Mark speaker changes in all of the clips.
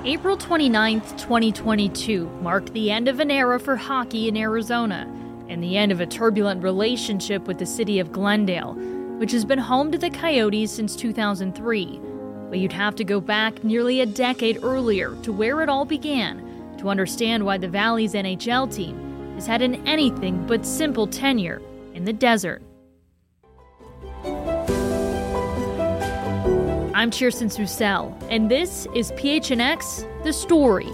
Speaker 1: April 29th, 2022 marked the end of an era for hockey in Arizona and the end of a turbulent relationship with the city of Glendale, which has been home to the Coyotes since 2003. But you'd have to go back nearly a decade earlier to where it all began to understand why the Valley's NHL team has had an anything but simple tenure in the desert. I'm Kirsten Susel, and this is PHNX, The Story.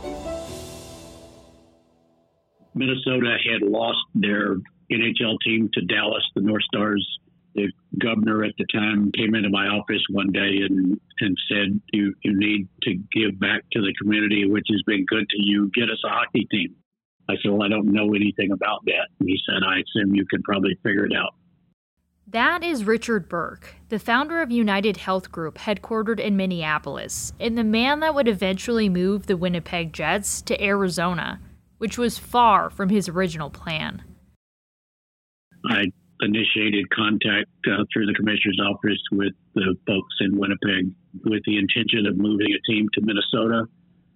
Speaker 2: Minnesota had lost their NHL team to Dallas, the North Stars. The governor at the time came into my office one day and said, you need to give back to the community, which has been good to you. Get us a hockey team. I said, well, I don't know anything about that. And he said, I assume you could probably figure it out.
Speaker 1: That is Richard Burke, the founder of United Health Group, headquartered in Minneapolis, and the man that would eventually move the Winnipeg Jets to Arizona, which was far from his original plan.
Speaker 2: I initiated contact through the commissioner's office with the folks in Winnipeg with the intention of moving a team to Minnesota.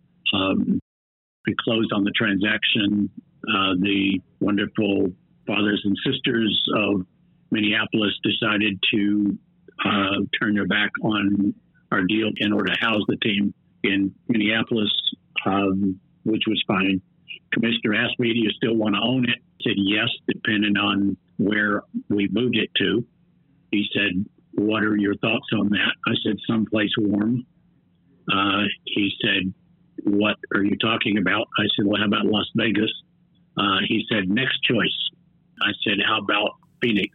Speaker 2: We closed on the transaction. The wonderful fathers and sisters of Minneapolis decided to turn their back on our deal in order to house the team in Minneapolis, which was fine. Commissioner asked me, do you still want to own it? I said, yes, depending on where we moved it to. He said, what are your thoughts on that? I said, someplace warm. He said, what are you talking about? I said, well, how about Las Vegas? He said, next choice. I said, how about Phoenix?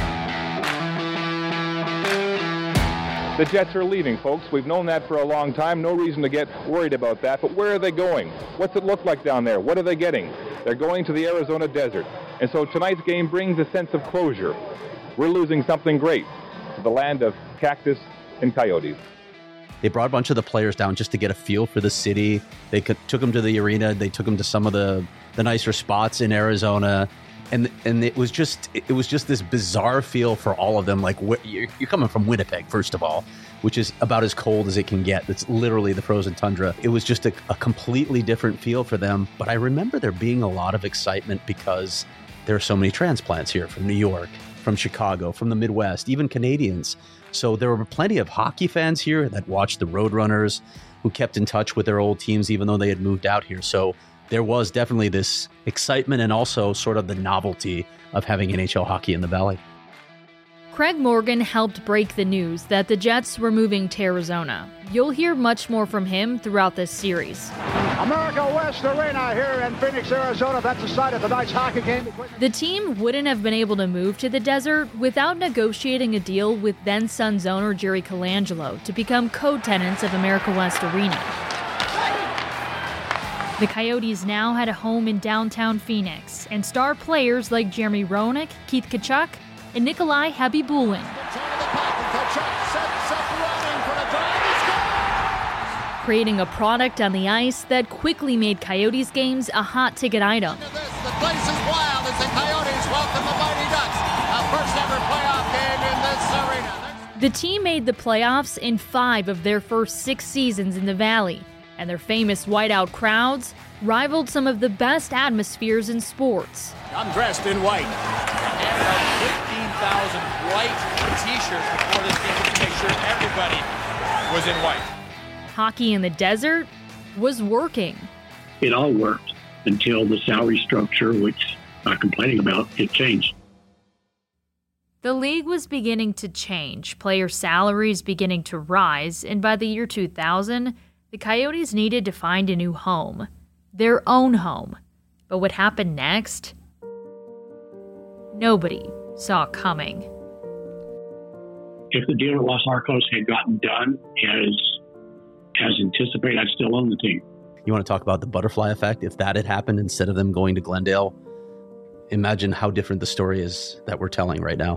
Speaker 3: The Jets are leaving, folks. We've known that for a long time. No reason to get worried about that. But where are they going? What's it look like down there? What are they getting? They're going to the Arizona desert. And so tonight's game brings a sense of closure. We're losing something great to the land of cactus and coyotes.
Speaker 4: They brought a bunch of the players down just to get a feel for the city. They took them to the arena. They took them to some of the nicer spots in Arizona. And it was just this bizarre feel for all of them. Like, you're coming from Winnipeg, first of all, which is about as cold as it can get. It's literally the frozen tundra. It was just a completely different feel for them. But I remember there being a lot of excitement because there are so many transplants here from New York, from Chicago, from the Midwest, even Canadians. So there were plenty of hockey fans here that watched the Roadrunners, who kept in touch with their old teams even though they had moved out here. So there was definitely this excitement and also sort of the novelty of having NHL hockey in the Valley.
Speaker 1: Craig Morgan helped break the news that the Jets were moving to Arizona. You'll hear much more from him throughout this series.
Speaker 5: America West Arena here in Phoenix, Arizona. That's the site of tonight's hockey game.
Speaker 1: The team wouldn't have been able to move to the desert without negotiating a deal with then Suns owner Jerry Colangelo to become co-tenants of America West Arena. The Coyotes now had a home in downtown Phoenix, and star players like Jeremy Roenick, Keith Tkachuk, and Nikolai Khabibulin creating a product on the ice that quickly made Coyotes games a hot ticket item.
Speaker 6: The place is wild as the Coyotes welcome the Mighty Ducks, a first ever playoff game in this arena.
Speaker 1: The team made the playoffs in 5 of their first 6 seasons in the Valley, and their famous whiteout crowds rivaled some of the best atmospheres in sports.
Speaker 6: I'm dressed in white. And about 15,000 white T-shirts before this game to make sure everybody was in white.
Speaker 1: Hockey in the desert was working.
Speaker 2: It all worked until the salary structure, which I'm not complaining about, it changed.
Speaker 1: The league was beginning to change, player salaries beginning to rise, and by the year 2000, the Coyotes needed to find a new home, their own home. But what happened next? Nobody saw coming.
Speaker 2: If the deal with Los Arcos had gotten done as anticipated, I'd still own the team.
Speaker 4: You want to talk about the butterfly effect? If that had happened instead of them going to Glendale, imagine how different the story is that we're telling right now.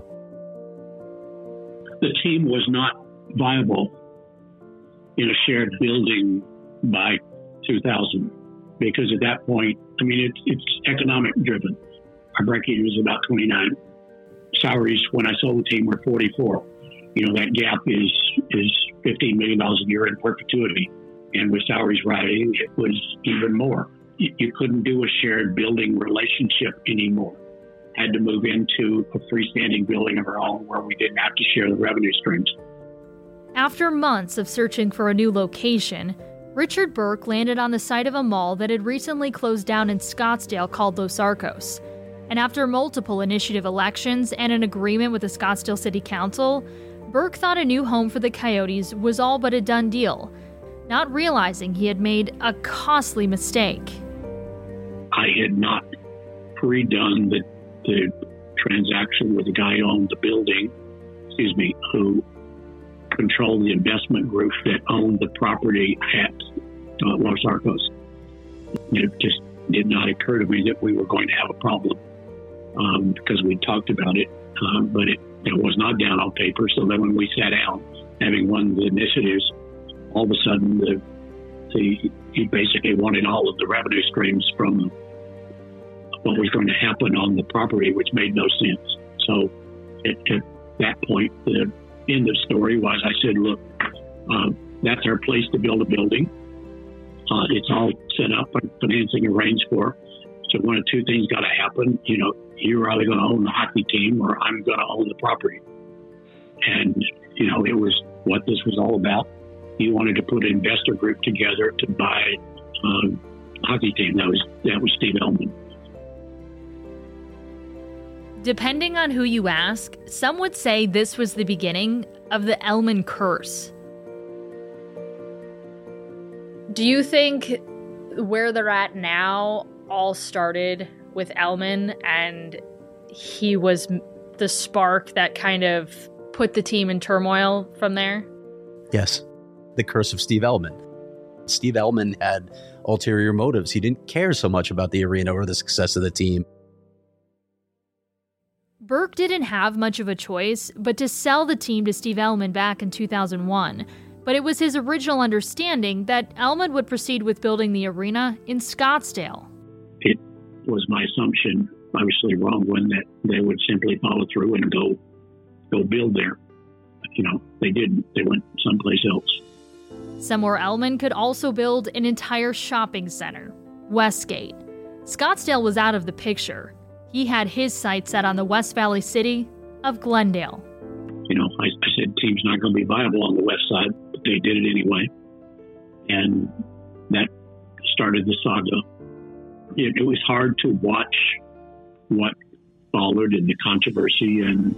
Speaker 2: The team was not viable in a shared building by 2000 because at that point, I mean, it's economic driven. Our break-even was about 29. Salaries when I sold the team were 44. You know, that gap is $15 million a year in perpetuity. And with salaries rising, it was even more. You couldn't do a shared building relationship anymore. Had to move into a freestanding building of our own where we didn't have to share the revenue streams.
Speaker 1: After months of searching for a new location, Richard Burke landed on the site of a mall that had recently closed down in Scottsdale called Los Arcos. And after multiple initiative elections and an agreement with the Scottsdale City Council, Burke thought a new home for the Coyotes was all but a done deal, not realizing he had made a costly mistake.
Speaker 2: I had not pre-done the transaction with the guy who owned the building, who controlled the investment group that owned the property at Los Arcos. It just did not occur to me that we were going to have a problem because we talked about it, but it was not down on paper. So then when we sat down, having won the initiatives, all of a sudden he basically wanted all of the revenue streams from what was going to happen on the property, which made no sense. So at that point, the end of story was I said, look, that's our place to build a building. It's all set up and financing arranged for. So one of two things got to happen. You're either going to own the hockey team or I'm going to own the property. And, it was what this was all about. He wanted to put an investor group together to buy a hockey team. That was Steve Ellman.
Speaker 1: Depending on who you ask, some would say this was the beginning of the Ellman curse. Do you think where they're at now all started with Ellman and he was the spark that kind of put the team in turmoil from there?
Speaker 4: Yes. The curse of Steve Ellman. Steve Ellman had ulterior motives. He didn't care so much about the arena or the success of the team.
Speaker 1: Burke didn't have much of a choice but to sell the team to Steve Ellman back in 2001. But it was his original understanding that Ellman would proceed with building the arena in Scottsdale.
Speaker 2: It was my assumption, obviously wrong one, that they would simply follow through and go build there. They didn't. They went someplace else.
Speaker 1: Somewhere Ellman could also build an entire shopping center, Westgate. Scottsdale was out of the picture. He had his sights set on the West Valley city of Glendale.
Speaker 2: I said team's not going to be viable on the west side, but they did it anyway. And that started the saga. It was hard to watch what followed in the controversy and,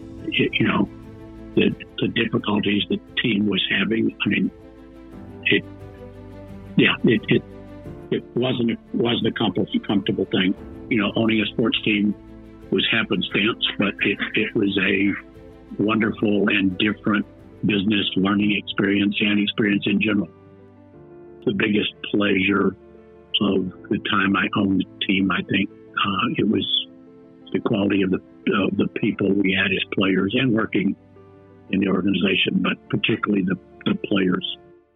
Speaker 2: the difficulties the team was having. I mean, it wasn't a comfortable thing. Owning a sports team was happenstance, but it was a wonderful and different business learning experience and experience in general. The biggest pleasure of the time I owned the team, I think, it was the quality of the people we had as players and working in the organization, but particularly the players.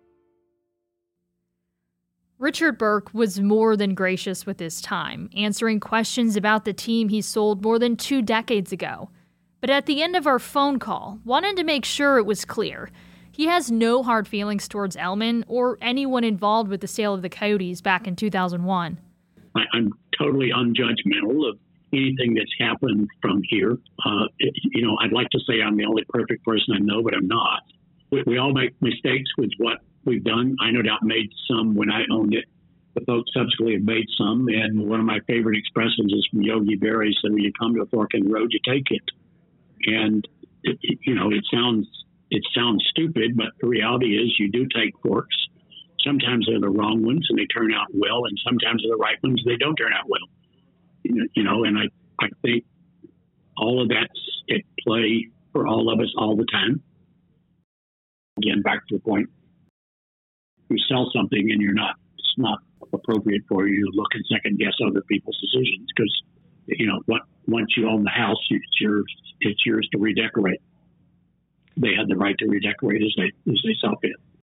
Speaker 1: Richard Burke was more than gracious with his time, answering questions about the team he sold more than 2 decades ago. But at the end of our phone call, wanted to make sure it was clear. He has no hard feelings towards Ellman or anyone involved with the sale of the Coyotes back in 2001.
Speaker 2: I'm totally unjudgmental of anything that's happened from here. I'd like to say I'm the only perfect person I know, but I'm not. We all make mistakes with what we've done. I no doubt made some when I owned it. The folks subsequently have made some, and one of my favorite expressions is from Yogi Berra. He said, when you come to a fork in the road, you take it. And, it sounds stupid, but the reality is you do take forks. Sometimes they're the wrong ones and they turn out well, and sometimes they're the right ones, they don't turn out well. And I think all of that's at play for all of us all the time. Again, back to the point, you sell something and it's not appropriate for you to look and second guess other people's decisions because, once you own the house, it's yours to redecorate. They had the right to redecorate as they saw fit.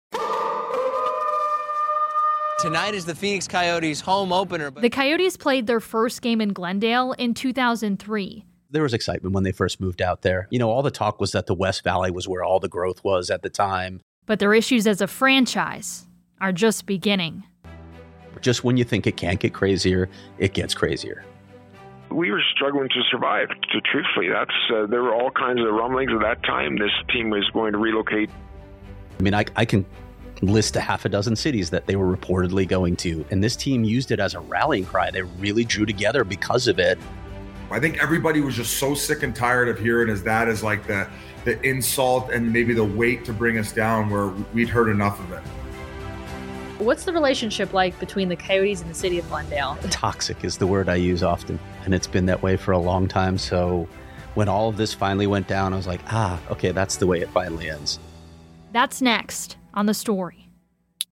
Speaker 7: Tonight is the Phoenix Coyotes home opener.
Speaker 1: The Coyotes played their first game in Glendale in 2003.
Speaker 4: There was excitement when they first moved out there. All the talk was that the West Valley was where all the growth was at the time.
Speaker 1: But their issues as a franchise are just beginning.
Speaker 4: Just when you think it can't get crazier, it gets crazier.
Speaker 8: We were struggling to survive, truthfully. There were all kinds of rumblings at that time. This team was going to relocate.
Speaker 4: I mean, I can list a half a dozen cities that they were reportedly going to, and this team used it as a rallying cry. They really drew together because of it.
Speaker 9: I think everybody was just so sick and tired of hearing that as like the insult and maybe the weight to bring us down, where we'd heard enough of it.
Speaker 1: What's the relationship like between the Coyotes and the city of Glendale?
Speaker 4: Toxic is the word I use often, and it's been that way for a long time. So when all of this finally went down, I was like, okay, that's the way it finally ends.
Speaker 1: That's next on The Story.